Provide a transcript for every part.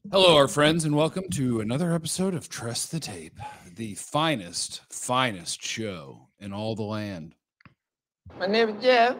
Hello, our friends, and welcome to another episode of Trust the Tape, the finest show in all the land. My name is Jeff.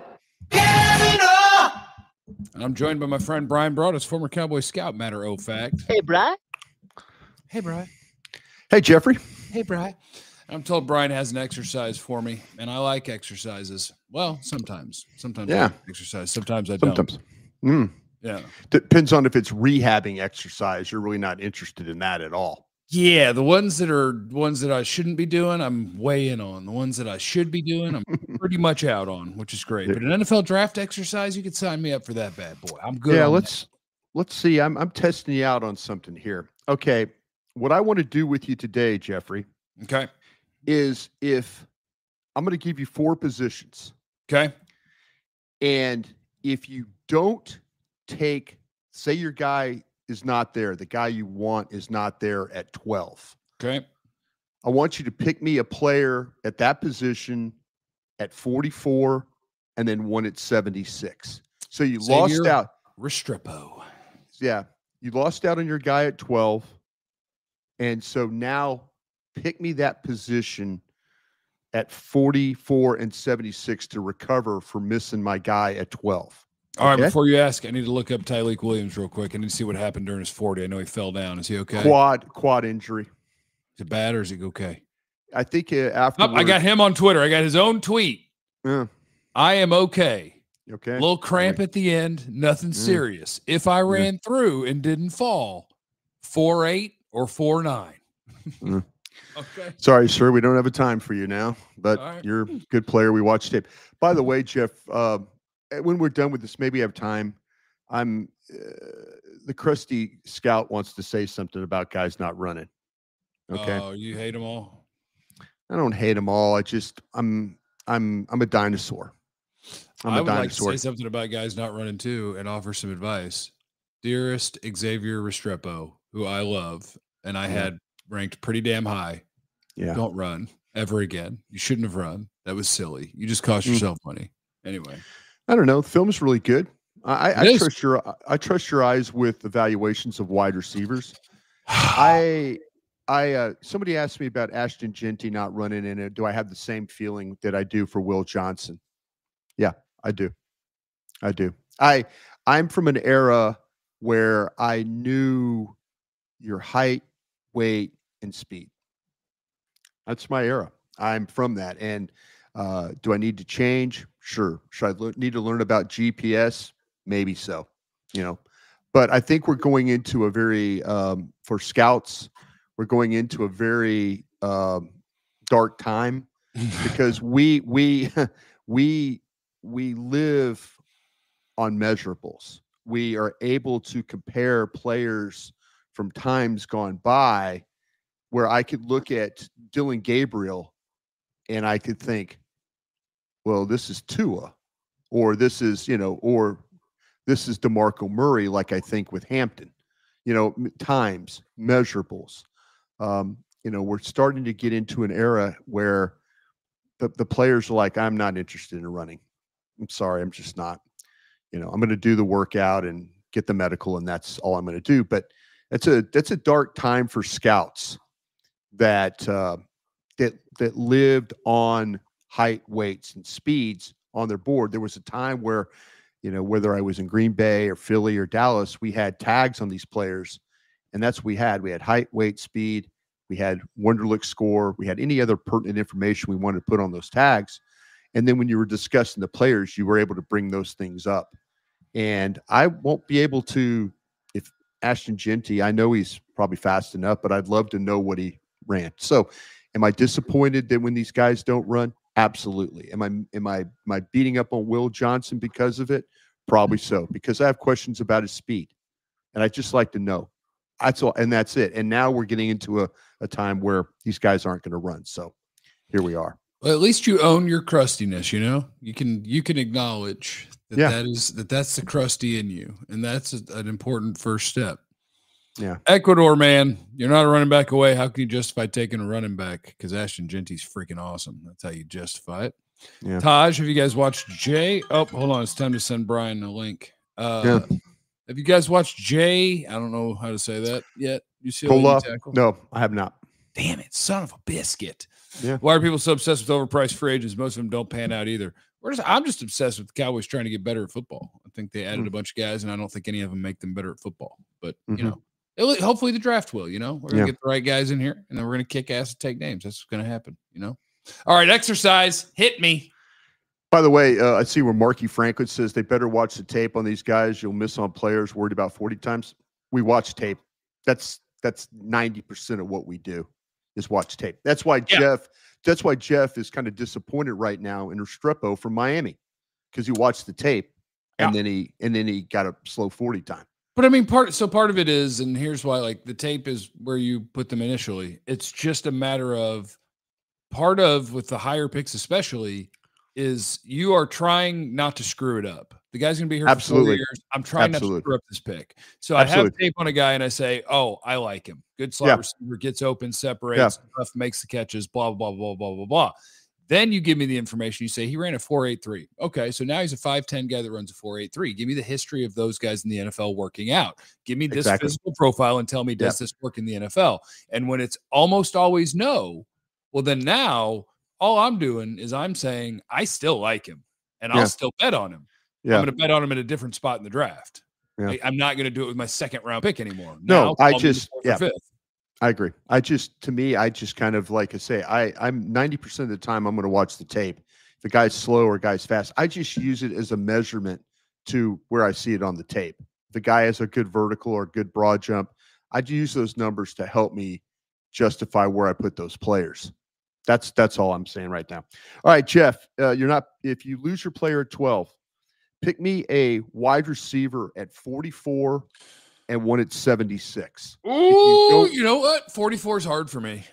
And I'm joined by my friend Brian Broadus, former Cowboy Scout, matter of fact. Hey, Bri. Hey, Brian. Hey, Jeffrey. Hey, Brian. I'm told Brian has an exercise for me, and I like exercises. Well, sometimes. Sometimes I like exercise. Sometimes I don't. Sometimes. Yeah. Depends on if it's rehabbing exercise. You're really not interested in that at all. Yeah, the ones that I shouldn't be doing, I'm way in on. The ones that I should be doing, I'm pretty much out on, which is great. But an NFL draft exercise, you could sign me up for that bad boy. I'm good. Yeah, let's see. I'm testing you out on something here. Okay, what I want to do with you today, Jeffrey, okay, is if I'm going to give you 4 positions. Okay, and if you don't take, say your guy is not there, the guy you want is not there at 12. Okay. I want you to pick me a player at that position at 44 and then one at 76. So you lost out. Restrepo. Yeah. You lost out on your guy at 12. And so now pick me that position at 44 and 76 to recover for missing my guy at 12. All right, before you ask, I need to look up Tyleik Williams real quick. I need to see what happened during his 40. I know he fell down. Is he okay? Quad injury. Is it bad or is he okay? I think after I got him on Twitter. I got his own tweet. Yeah. I am okay. Okay. A little cramp at the end. Nothing serious. If I ran through and didn't fall, 4.8 or 4.9. Okay. Sorry, sir. We don't have a time for you now, but you're a good player. We watch tape. By the way, Jeff, when we're done with this, maybe have time. The crusty scout wants to say something about guys not running. Okay. Oh, you hate them all? I don't hate them all. I'm a dinosaur. I would like to say something about guys not running too and offer some advice. Dearest Xavier Restrepo, who I love and I had ranked pretty damn high. Yeah. Don't run ever again. You shouldn't have run. That was silly. You just cost yourself money. Anyway. I don't know. The film is really good. I trust your eyes with evaluations of wide receivers. Somebody asked me about Ashton Jeanty not running in it. Do I have the same feeling that I do for Will Johnson? Yeah, I do. I'm from an era where I knew your height, weight, and speed. That's my era. I'm from that. And do I need to change? Sure. Should I need to learn about GPS? Maybe so, but I think we're going into a very, for scouts, we're going into a very dark time because we live on measurables. We are able to compare players from times gone by where I could look at Dylan Gabriel and I could think, well, this is Tua, or this is, or this is DeMarco Murray, like I think with Hampton, times, measurables. We're starting to get into an era where the players are like, I'm not interested in running. I'm sorry, I'm just not. I'm going to do the workout and get the medical, and that's all I'm going to do. But that's a dark time for scouts that lived on height, weights, and speeds on their board. There was a time where, whether I was in Green Bay or Philly or Dallas, we had tags on these players, and that's what we had. We had height, weight, speed. We had Wonderlic score. We had any other pertinent information we wanted to put on those tags. And then when you were discussing the players, you were able to bring those things up. And I won't be able to, if Ashton Jeanty, I know he's probably fast enough, but I'd love to know what he ran. So am I disappointed that when these guys don't run? Absolutely. Am I beating up on Will Johnson because of it? Probably so, because I have questions about his speed. And I'd just like to know. That's all, and that's it. And now we're getting into a time where these guys aren't going to run. So here we are. Well, at least you own your crustiness, You can acknowledge that that's the crusty in you. And that's an important first step. Yeah. Ecuador, man, you're not a running back away. How can you justify taking a running back? Because Ashton Jeanty's freaking awesome. That's how you justify it. Yeah. Taj, have you guys watched Jay? Oh, hold on. It's time to send Brian a link. Have Have you guys watched Jay? I don't know how to say that yet. UCLA Cola? tackle. No, I have not. Damn it, son of a biscuit. Yeah. Why are people so obsessed with overpriced free agents? Most of them don't pan out either. I'm just obsessed with the Cowboys trying to get better at football. I think they added a bunch of guys, and I don't think any of them make them better at football. But, you know, hopefully the draft will, you know. We're going to get the right guys in here, and then we're going to kick ass and take names. That's what's going to happen, you know. All right, exercise. Hit me. By the way, I see where Marky Franklin says they better watch the tape on these guys. You'll miss on players worried about 40 times. We watch tape. That's 90% of what we do is watch tape. That's why Jeff is kind of disappointed right now in Restrepo from Miami, because he watched the tape and then he got a slow 40 time. But I mean, part of it is, and here's why, like, the tape is where you put them initially. It's just a matter of with the higher picks, especially, is you are trying not to screw it up. The guy's going to be here for 4 years. I'm trying not to screw up this pick. So I have tape on a guy and I say, oh, I like him. Good slot receiver, gets open, separates, makes the catches, blah, blah, blah, blah, blah, blah. Then you give me the information. You say he ran a 4.83. Okay, so now he's a 5'10 guy that runs a 4.83. Give me the history of those guys in the NFL working out. Give me this physical profile and tell me, does this work in the NFL? And when it's almost always no, well, then now all I'm doing is I'm saying I still like him, and I'll still bet on him. Yeah. I'm going to bet on him at a different spot in the draft. Yeah. I'm not going to do it with my second round pick anymore. No, now, I agree. To me, I just kind of, like I say, I'm 90% of the time I'm going to watch the tape. If the guy's slow or guy's fast, I just use it as a measurement to where I see it on the tape. If the guy has a good vertical or a good broad jump, I use those numbers to help me justify where I put those players. That's all I'm saying right now. All right, Jeff, if you lose your player at 12, pick me a wide receiver at 44 and one at 76. Ooh, you know what? 44 is hard for me.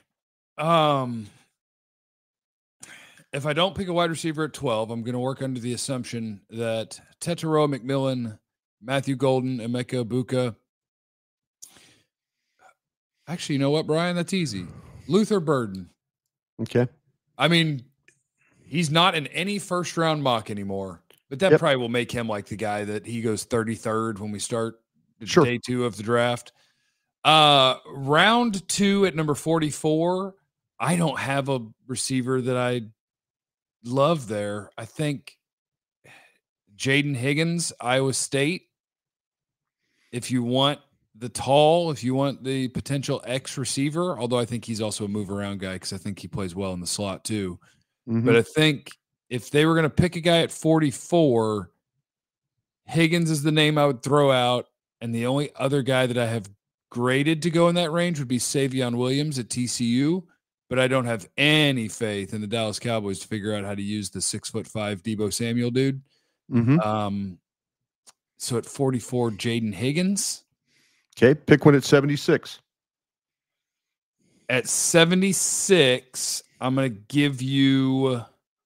If I don't pick a wide receiver at 12, I'm going to work under the assumption that Tetairoa McMillan, Matthew Golden, Emeka Egbuka. Actually, you know what, Brian? That's easy. Luther Burden. Okay. I mean, he's not in any first round mock anymore, but that probably will make him like the guy that he goes 33rd when we start day 2 of the draft. Round 2 at number 44. I don't have a receiver that I love there. I think Jaden Higgins, Iowa State. If you want if you want the potential X receiver, although I think he's also a move around guy because I think he plays well in the slot too. But I think if they were going to pick a guy at 44, Higgins is the name I would throw out. And the only other guy that I have graded to go in that range would be Savion Williams at TCU. But I don't have any faith in the Dallas Cowboys to figure out how to use the 6'5" Deebo Samuel dude. So at 44, Jaden Higgins. Okay, pick one at 76. At 76, I'm going to give you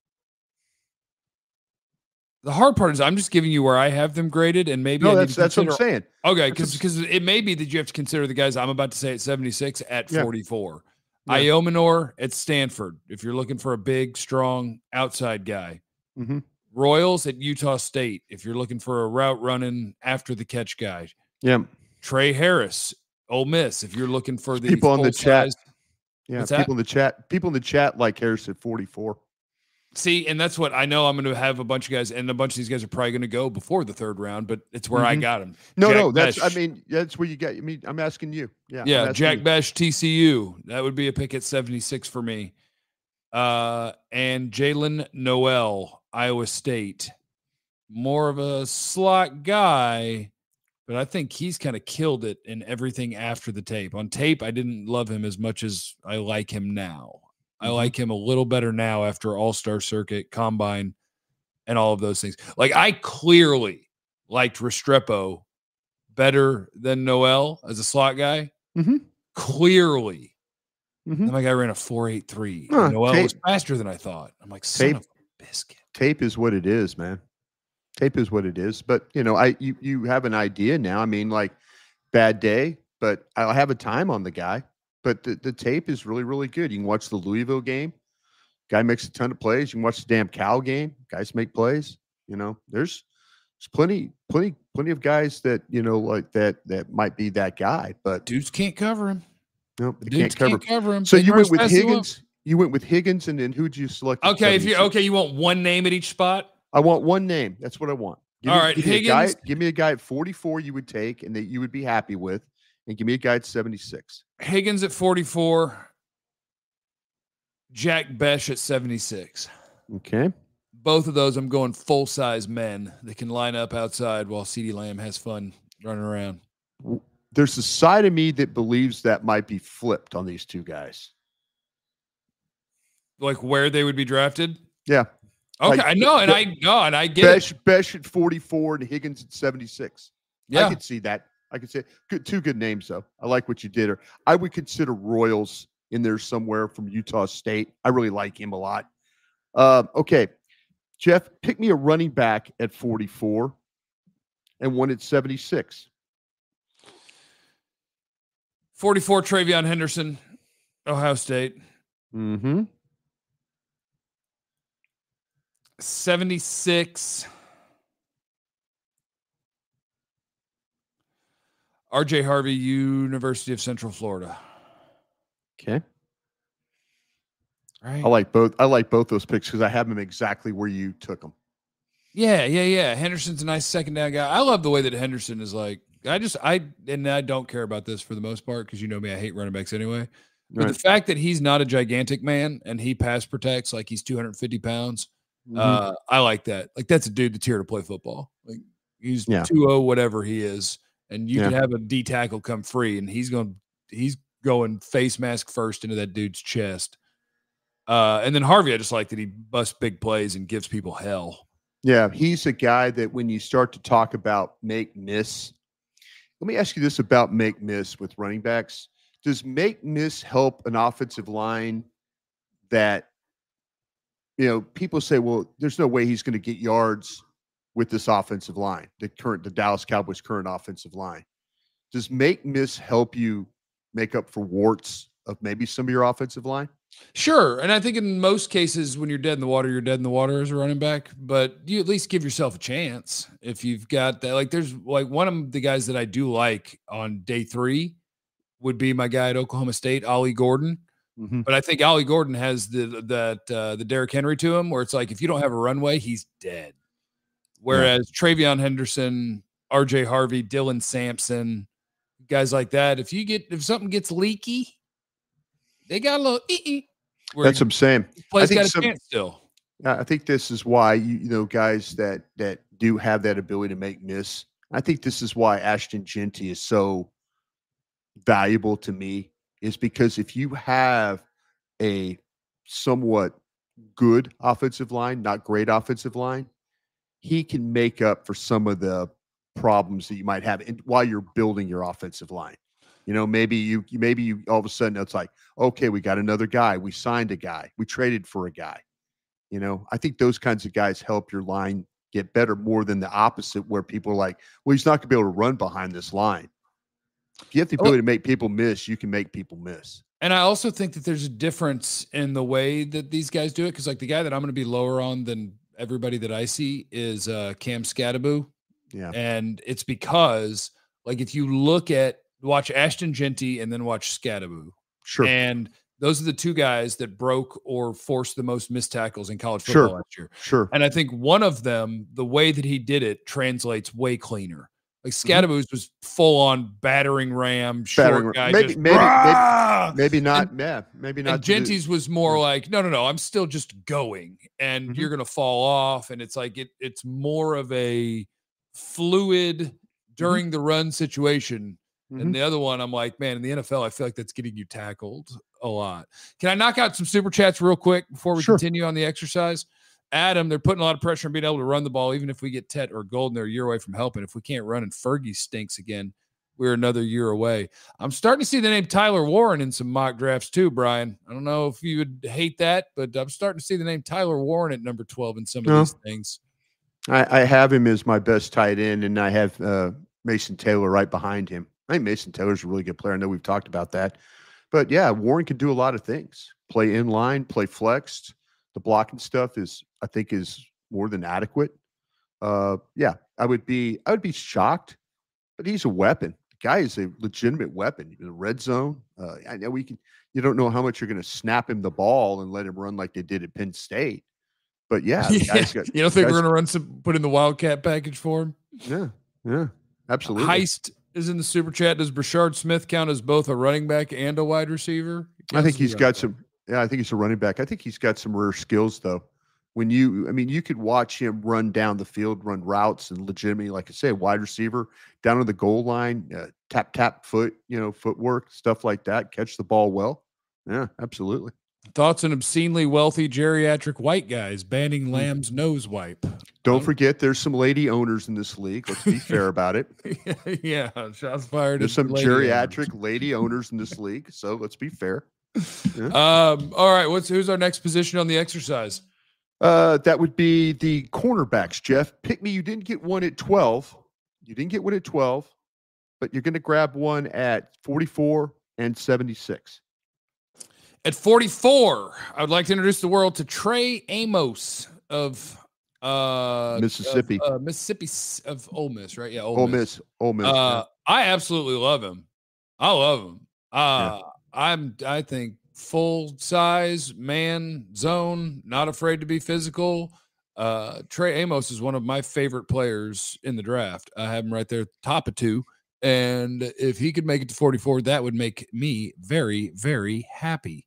the hard part is I'm just giving you where I have them graded, and maybe that's what I'm saying. Okay, because it may be that you have to consider the guys I'm about to say at 76 at 44. Yeah. Iomenor at Stanford, if you're looking for a big, strong outside guy. Royals at Utah State, if you're looking for a route running after the catch guy. Yeah. Trey Harris, Ole Miss, if you're looking for the people in the chat. Yeah, people in the chat like Harris at 44. See, and that's what I know. I'm going to have a bunch of guys, and a bunch of these guys are probably going to go before the 3rd round, but it's where I got them. That's where you get. I mean, I'm asking you. Yeah. Jack Besh, TCU. That would be a pick at 76 for me. And Jalen Noel, Iowa State. More of a slot guy, but I think he's kind of killed it in everything after the tape. On tape, I didn't love him as much as I like him now. I like him a little better now after All-Star Circuit, Combine, and all of those things. Like, I clearly liked Restrepo better than Noel as a slot guy. Clearly. Then my guy ran a 4.83. Noel was faster than I thought. I'm like, son of a biscuit. Tape is what it is, man. Tape is what it is. But, you have an idea now. I mean, like, bad day, but I'll have a time on the guy. But the tape is really, really good. You can watch the Louisville game. Guy makes a ton of plays. You can watch the damn Cal game. Guys make plays. There's plenty plenty of guys that, like that might be that guy, but Dudes can't cover him. nope, The they can't dudes cover. him. So They you can went run with as fast as they want. Higgins. You went with Higgins, and then who'd you select? at Okay, 76? you want one name at each spot. I want one name. That's what I want. All right, give me Higgins. give me a guy at 44 you would take and that you would be happy with, and give me a guy at 76. Higgins at 44. Jack Besh at 76. Okay. Both of those, I'm going full-size men that can line up outside while CeeDee Lamb has fun running around. There's a side of me that believes that might be flipped on these two guys. Like where they would be drafted? Yeah. Okay, Like, I know, and I get it. Besh at 44 and Higgins at 76. Yeah. I could see that. I could say two good names, though. I like what you did. Or I would consider Royals in there somewhere from Utah State. I really like him a lot. Okay. Jeff, pick me a running back at 44 and one at 76. 44, Travion Henderson, Ohio State. Mm-hmm. 76, RJ Harvey, University of Central Florida. Okay. Right. I like both those picks because I have them exactly where you took them. Yeah. Henderson's a nice second down guy. I love the way that Henderson is like, I don't care about this for the most part because you know me, I hate running backs anyway. But the fact that he's not a gigantic man and he pass protects like he's 250 pounds, I like that. Like that's a dude that's here to play football. Like he's 2-0 whatever he is, and you can have a D tackle come free, and he's going face mask first into that dude's chest. And then Harvey, I just like that he busts big plays and gives people hell. Yeah, he's a guy that when you start to talk about make miss, let me ask you this about make miss with running backs. Does make miss help an offensive line that, people say, well, there's no way he's going to get yards with this offensive line, the Dallas Cowboys current offensive line. Does make miss help you make up for warts of maybe some of your offensive line? Sure. And I think in most cases, when you're dead in the water, you're dead in the water as a running back, but you at least give yourself a chance. If you've got that, like there's like one of the guys that I do like on day 3 would be my guy at Oklahoma State, Ollie Gordon. Mm-hmm. But I think Ollie Gordon has the Derrick Henry to him, where it's like if you don't have a runway, he's dead. Whereas Travion Henderson, RJ Harvey, Dylan Sampson, guys like that, if something gets leaky, they got a little That's what I'm saying. Play's got a chance still. I think this is why guys that do have that ability to make miss. I think this is why Ashton Jeanty is so valuable to me, is because if you have a somewhat good offensive line, not great offensive line, he can make up for some of the problems that you might have while you're building your offensive line. Maybe you all of a sudden it's like, okay, we got another guy. We signed a guy. We traded for a guy. I think those kinds of guys help your line get better more than the opposite, where people are like, well, he's not going to be able to run behind this line. If you have the ability to make people miss, you can make people miss. And I also think that there's a difference in the way that these guys do it. Because like the guy that I'm going to be lower on than everybody that I see is Cam Scattaboo. Yeah. And it's because like if you watch Ashton Jeanty and then watch Scattaboo. Sure. And those are the two guys that broke or forced the most missed tackles in college football last year. Sure. And I think one of them, the way that he did it translates way cleaner. Like Scattaboo's was full on battering ram, short guy. Maybe not. Maybe not. And Jeanty's was more like, no, I'm still just going, and you're gonna fall off. And it's like it's more of a fluid during the run situation. And the other one, I'm like, man, in the NFL, I feel like that's getting you tackled a lot. Can I knock out some super chats real quick before we continue on the exercise? Adam, they're putting a lot of pressure on being able to run the ball, even if we get Tet or Golden, they're a year away from helping. If we can't run and Fergie stinks again, we're another year away. I'm starting to see the name Tyler Warren in some mock drafts too, Brian. I don't know if you would hate that, but I'm starting to see the name Tyler Warren at number 12 in some of these things. I have him as my best tight end, and I have Mason Taylor right behind him. I think Mason Taylor's a really good player. I know we've talked about that. But, yeah, Warren can do a lot of things. Play in line, play flexed. The blocking stuff I think is more than adequate. Yeah, I would be shocked, but he's a weapon. The guy is a legitimate weapon in the red zone. I know you don't know how much you're going to snap him the ball and let him run like they did at Penn State. But yeah, the guy's got, you don't think we're going to put in the Wildcat package for him? Yeah, absolutely. Heist is in the super chat. Does Brashard Smith count as both a running back and a wide receiver? I think he's got some. Yeah, I think he's a running back. I think he's got some rare skills though. You could watch him run down the field, run routes, and legitimately, like I say, wide receiver down on the goal line, tap footwork, stuff like that. Catch the ball well. Yeah, absolutely. Thoughts on obscenely wealthy geriatric white guys banning Lamb's nose wipe? Don't forget, there's some lady owners in this league. Let's be fair about it. Yeah, shots fired. There's some geriatric lady owners in this league, so let's be fair. Yeah. All right, who's our next position on the exercise? That would be the cornerbacks, Jeff. Pick me. You didn't get one at 12. But you're going to grab one at 44 and 76. At 44, I would like to introduce the world to Trey Amos of Mississippi. Mississippi of Ole Miss, right? Yeah, Ole Miss. I absolutely love him. I love him. I think full size man zone, not afraid to be physical. Trey Amos is one of my favorite players in the draft. I have him right there, top of 2. And if he could make it to 44, that would make me very, very happy.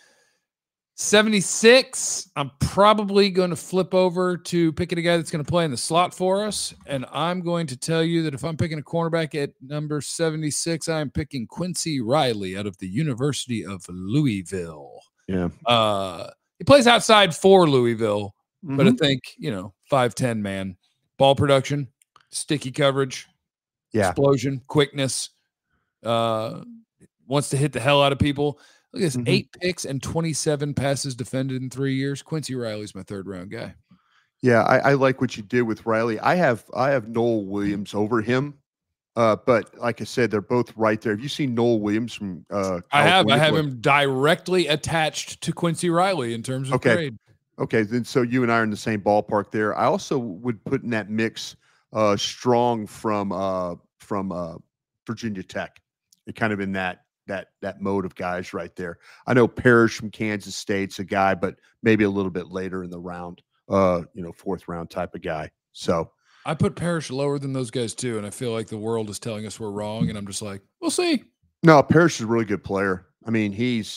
76, I'm probably going to flip over to picking a guy that's going to play in the slot for us. And I'm going to tell you that if I'm picking a cornerback at number 76, I'm picking Quincy Riley out of the University of Louisville. Yeah. He plays outside for Louisville, but I think, 5'10", man. Ball production, sticky coverage, explosion, quickness, wants to hit the hell out of people. Look at this, 8 picks and 27 passes defended in 3 years. Quincy Riley's my third-round guy. Yeah, I like what you did with Riley. I have Noel Williams over him, but like I said, they're both right there. Have you seen Noel Williams from I have him directly attached to Quincy Riley in terms of grade. Okay, then so you and I are in the same ballpark there. I also would put in that mix Strong from Virginia Tech. They're kind of in that mode of guys right there. I know Parrish from Kansas State's a guy, but maybe a little bit later in the round, 4th round type of guy. So I put Parrish lower than those guys too, and I feel like the world is telling us we're wrong, and I'm just like, we'll see. No, Parrish is a really good player. I mean,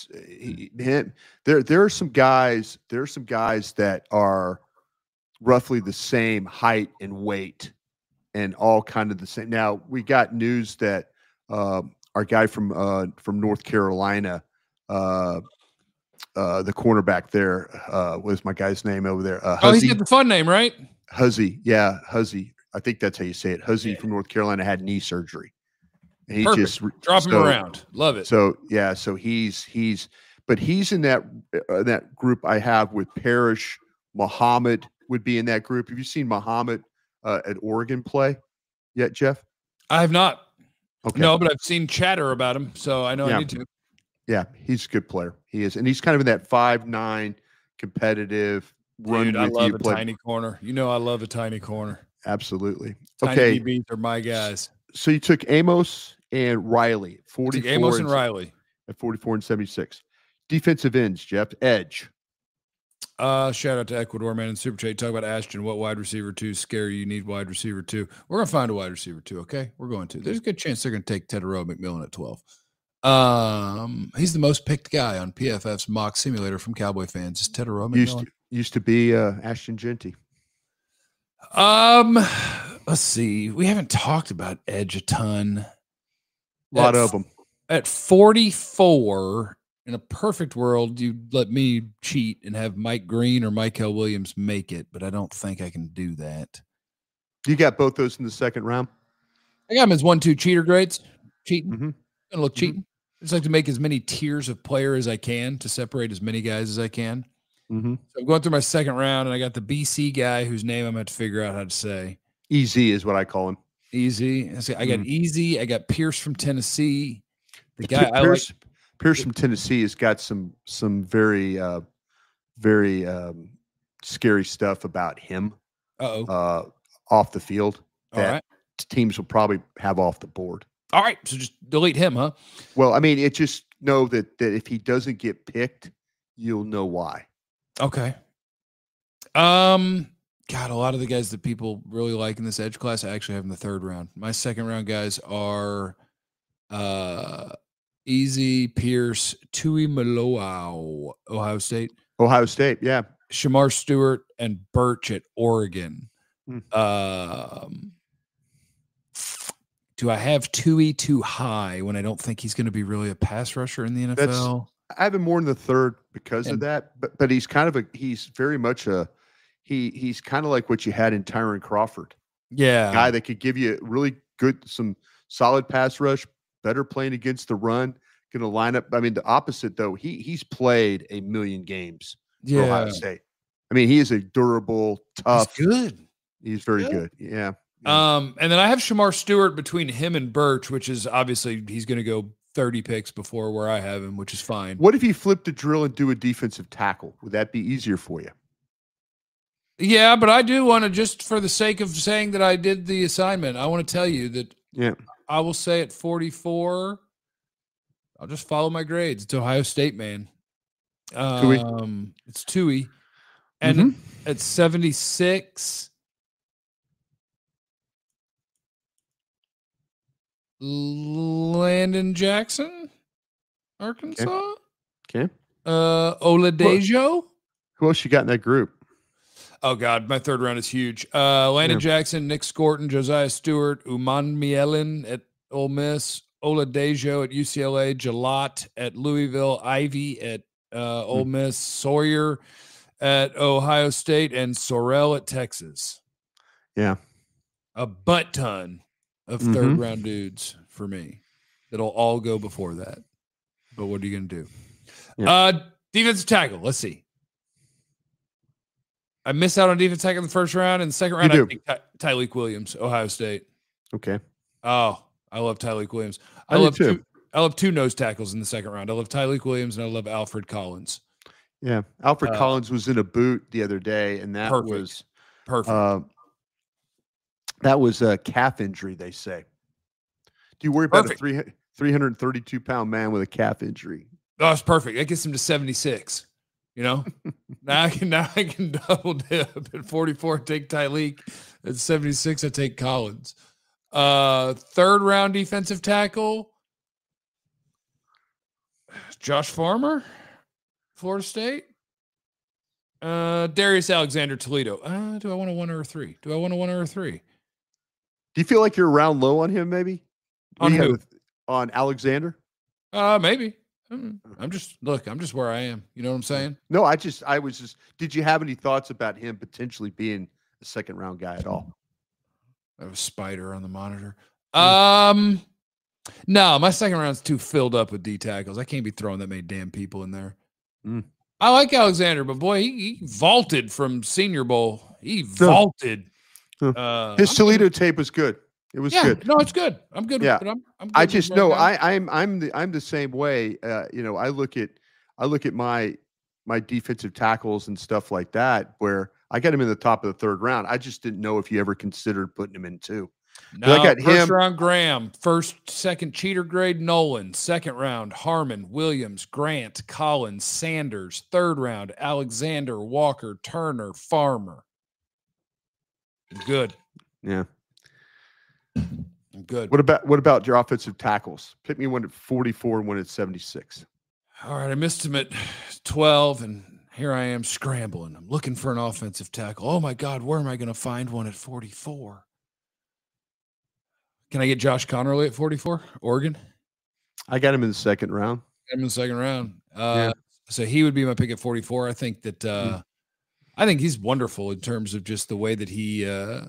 there are some guys that are roughly the same height and weight and all kind of the same. Now we got news that our guy from North Carolina, the cornerback there, what's my guy's name over there? He's got the fun name, right? Huzzy. Yeah, Huzzy. I think that's how you say it. Huzzy from North Carolina had knee surgery. And he just drop him around. Love it. So yeah, so he's in that group I have with Parrish. Muhammad would be in that group. Have you seen Muhammad at Oregon play yet, Jeff? I have not. Okay. No, but I've seen chatter about him, so I know I need to. Yeah, he's a good player. He is, and he's kind of in that 5'9" competitive run. Dude, I love a tiny corner. I love a tiny corner. Absolutely. Tiny DBs are my guys. So you took Amos and Riley. 44 Amos and Riley at 44 and 76. Defensive ends, Jeff. Edge. Shout out to Ecuador, man, and Super Chat. Talk about Ashton. What wide receiver 2 scary? You need wide receiver 2. We're gonna find a wide receiver 2. Okay, we're going to. There's a good chance they're gonna take Tedero McMillan at 12. He's the most picked guy on PFF's mock simulator from Cowboy fans. Is Tedero McMillan? Used to be Ashton Jeanty. Let's see. We haven't talked about edge a ton. A lot of them. At 44. In a perfect world, you'd let me cheat and have Mike Green or Mykel Williams make it, but I don't think I can do that. You got both those in the second round? I got them as 1-2 cheater grades. Cheating. Gonna look cheating. I just like to make as many tiers of player as I can to separate as many guys as I can. So I'm going through my second round, and I got the BC guy whose name I'm going to have to figure out how to say. Easy is what I call him. Easy. I got Easy. I got Pierce from Tennessee. The guy Pierce from Tennessee has got some very very scary stuff about him off the field. All that right. teams will probably have off the board. All right. So just delete him, huh? Well, I mean, it just know that if he doesn't get picked, you'll know why. Okay. God, a lot of the guys that people really like in this edge class, I actually have in the third round. My second round guys are Easy, Pierce, Tui Maloau, Ohio State. Ohio State, yeah. Shamar Stewart and Birch at Oregon. Hmm. Do I have Tui too high when I don't think he's going to be really a pass rusher in the NFL? I have him more in the third because of that, but he's kind of he's very much he's kind of like what you had in Tyron Crawford. Yeah. Guy that could give you really good, some solid pass rush, better playing against the run, going to line up. I mean, the opposite though, he's played a million games for Ohio State. I mean, he is a durable, tough. He's good. He's very good. Yeah. And then I have Shamar Stewart between him and Birch, which is obviously he's going to go 30 picks before where I have him, which is fine. What if you flip the drill and do a defensive tackle? Would that be easier for you? Yeah, but I do want to, just for the sake of saying that I did the assignment, I want to tell you that I will say at 44, I'll just follow my grades. It's Ohio State, man. It's Tui. And at 76, Landon Jackson, Arkansas. Okay. Oladejo. Who else you got in that group? Oh, God, my third round is huge. Landon Jackson, Nick Scorton, Josiah Stewart, Uman Mielen at Ole Miss, Oladejo at UCLA, Jalot at Louisville, Ivy at Ole Miss, Sawyer at Ohio State, and Sorrell at Texas. Yeah. A butt ton of third round dudes for me. It'll all go before that. But what are you going to do? Yeah. Defensive tackle. Let's see. I missed out on defensive tackle in the first round. In the second round, I think Tyleik Williams, Ohio State. Okay. Oh, I love Tyleik Williams. I love two nose tackles in the second round. I love Tyleik Williams and I love Alfred Collins. Yeah. Alfred Collins was in a boot the other day, and that was perfect. That was a calf injury, they say. Do you worry about a 332-pound man with a calf injury? Oh, it's perfect. That gets him to 76. You know, now I can double dip at 44. Take Tyleik. At 76, I take Collins. Third round defensive tackle, Josh Farmer, Florida State. Darius Alexander, Toledo. Do I want a 1 or a 3? Do you feel like you're around low on him? Maybe on who? On Alexander? Maybe. I'm just where I am. You know what I'm saying? No, I was just. Did you have any thoughts about him potentially being a second round guy at all? I have a spider on the monitor. No, my second round's too filled up with D tackles. I can't be throwing that many damn people in there. I like Alexander, but boy, he vaulted from Senior Bowl. He vaulted. His Toledo tape was good. It was good. No, it's good. I'm good. Yeah. With it. I'm good I just know I'm the same way. I look at my defensive tackles and stuff like that, where I got him in the top of the third round. I just didn't know if you ever considered putting him in two. No, I got first round Graham, second cheater grade Nolan, second round Harmon, Williams, Grant, Collins, Sanders, third round Alexander, Walker, Turner, Farmer. Good. Yeah. I'm good. What about your offensive tackles? Pick me one at 44 and one at 76. All right, I missed him at 12, and here I am scrambling. I'm looking for an offensive tackle. Oh my God, where am I going to find one at 44? Can I get Josh Connerly at 44? Oregon? I got him in the second round. So he would be my pick at 44. I think that I think he's wonderful in terms of just the way that he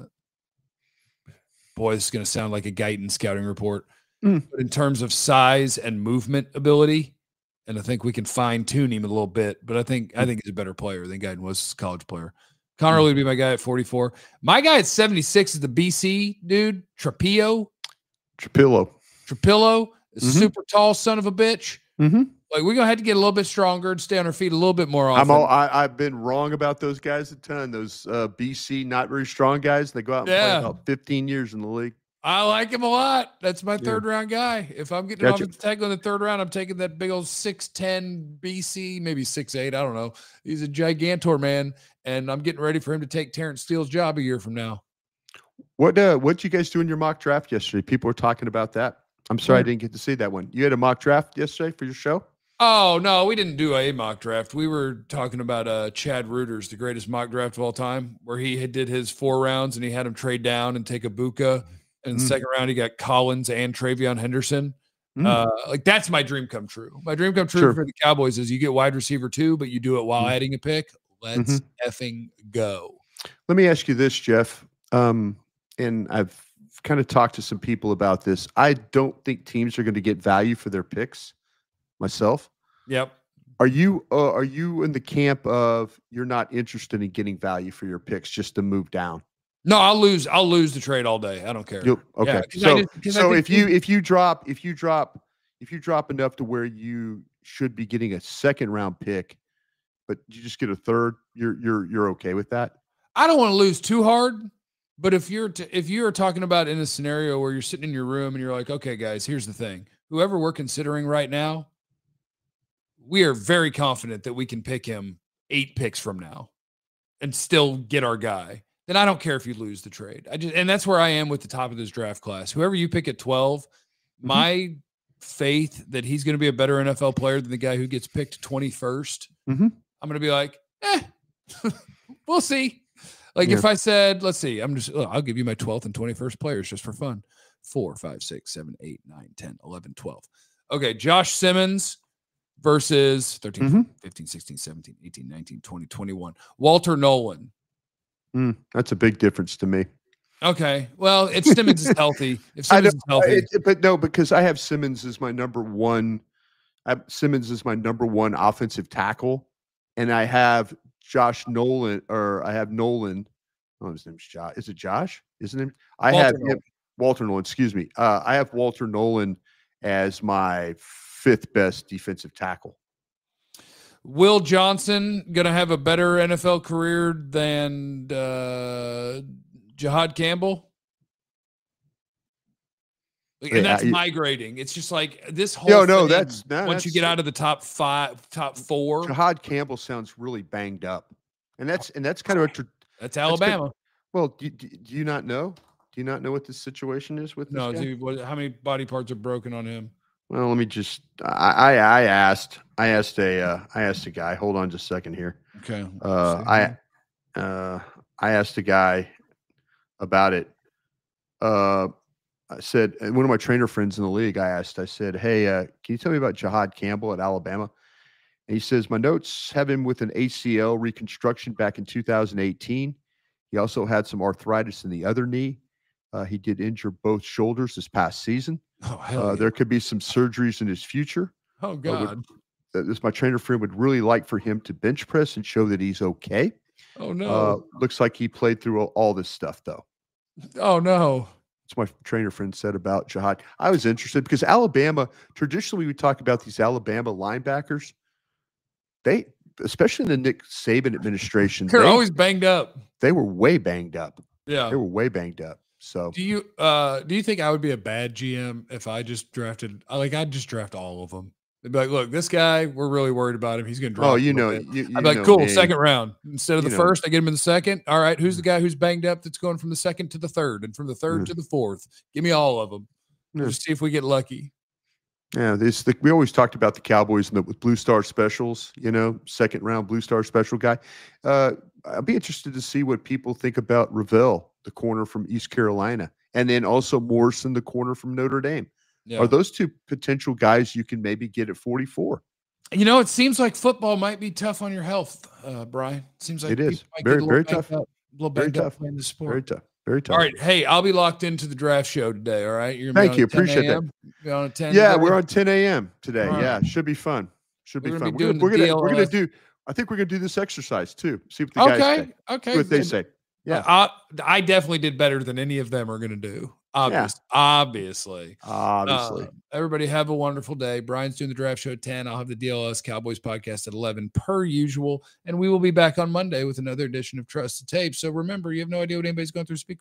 boy, this is going to sound like a Guyton scouting report. But in terms of size and movement ability, and I think we can fine tune him a little bit, but I think he's a better player than Guyton was as a college player. Connerly would be my guy at 44. My guy at 76 is the BC dude, Trapillo, a super tall son of a bitch. Like we're gonna have to get a little bit stronger and stay on our feet a little bit more often. I've been wrong about those guys a ton. Those BC not very strong guys. They go out and play about 15 years in the league. I like him a lot. That's my third round guy. If I'm getting an offensive tackle in the third round, I'm taking that big old 6'10 BC, maybe 6'8. I don't know. He's a gigantor, man. And I'm getting ready for him to take Terrence Steele's job a year from now. What'd you guys do in your mock draft yesterday? People were talking about that. I'm sorry I didn't get to see that one. You had a mock draft yesterday for your show? Oh, no, we didn't do a mock draft. We were talking about Chad Reuters, the greatest mock draft of all time, where he did his 4 rounds and he had him trade down and take Ibuka. In the second round, he got Collins and Travion Henderson. Like that's my dream come true. My dream come true for the Cowboys is you get wide receiver 2, but you do it while adding a pick. Let's effing go. Let me ask you this, Jeff. And I've kind of talked to some people about this. I don't think teams are going to get value for their picks myself. Yep. Are you in the camp of you're not interested in getting value for your picks just to move down? No, I'll lose the trade all day. I don't care. Okay. Yeah, so if you drop enough to where you should be getting a second round pick, but you just get a third, you're okay with that? I don't want to lose too hard, but if you're talking about in a scenario where you're sitting in your room and you're like, okay, guys, here's the thing. Whoever we're considering right now, we are very confident that we can pick him 8 picks from now and still get our guy. Then I don't care if you lose the trade. And that's where I am with the top of this draft class. Whoever you pick at 12, my faith that he's going to be a better NFL player than the guy who gets picked 21st. I'm going to be like, we'll see. Like if I said, let's see, I'll give you my 12th and 21st players just for fun. 4, 5, 6, 7, 8, 9, 10, 11, 12. Okay. Josh Simmons versus 13, 14, 15, 16, 17, 18, 19, 20, 21. Walter Nolan. That's a big difference to me. Okay. Well, if Simmons is healthy, but no, because I have Simmons as my number one. Simmons is my number one offensive tackle, and I have Josh Nolan, or I have Nolan. Oh, his name's Josh. Is it Josh? Isn't it? Walter Nolan. Excuse me. I have Walter Nolan as my 5th best defensive tackle. Will Johnson going to have a better NFL career than Jihad Campbell? And that's migrating. It's just like this whole thing, once you get out of the top 4. Jihad Campbell sounds really banged up. And that's kind of that's Alabama. Well, do you not know? Do you not know what the situation is with this guy? Dude, how many body parts are broken on him? Well, let me just. I asked a guy. Hold on just a second here. Okay. I asked a guy about it. I said, one of my trainer friends in the league. I said, hey, can you tell me about Jihad Campbell at Alabama? And he says, my notes have him with an ACL reconstruction back in 2018. He also had some arthritis in the other knee. He did injure both shoulders this past season. Oh, hell yeah. There could be some surgeries in his future. Oh, God. My trainer friend would really like for him to bench press and show that he's okay. Oh, no. Looks like he played through all this stuff, though. Oh, no. That's what my trainer friend said about Jihad. I was interested because Alabama, traditionally, we talk about these Alabama linebackers. They, especially in the Nick Saban administration, they're always banged up. They were way banged up. Yeah. They were way banged up. So do you think I would be a bad GM if I just drafted, I'd just draft all of them? They'd be like, look, this guy, we're really worried about him. He's going to drop. Oh, I'd be like, cool, second round. Instead of the first, I get him in the second. All right, who's the guy who's banged up that's going from the second to the third and from the third to the fourth? Give me all of them. Just see if we get lucky. Yeah, we always talked about the Cowboys with Blue Star specials, second round Blue Star special guy. I'd be interested to see what people think about Ravel, the corner from East Carolina, and then also Morrison, the corner from Notre Dame. Yeah. Are those two potential guys you can maybe get at 44? It seems like football might be tough on your health, Brian. It seems like it is very tough. A little banged up playing the sport. Very tough. Very tough. All right. Hey, I'll be locked into the draft show today. All right. Thank you. Appreciate that. You're on 10. Yeah, we're on 10 a.m. today. Right. Yeah, should be fun. We're gonna do. I think we're gonna do this exercise too. See what the guys say. Okay. See what they say. Yeah. I definitely did better than any of them are gonna do. Obviously. Obviously. Everybody have a wonderful day. Brian's doing the draft show at 10. I'll have the DLS Cowboys podcast at 11 per usual. And we will be back on Monday with another edition of Trusted Tape. So remember, you have no idea what anybody's going through. Speak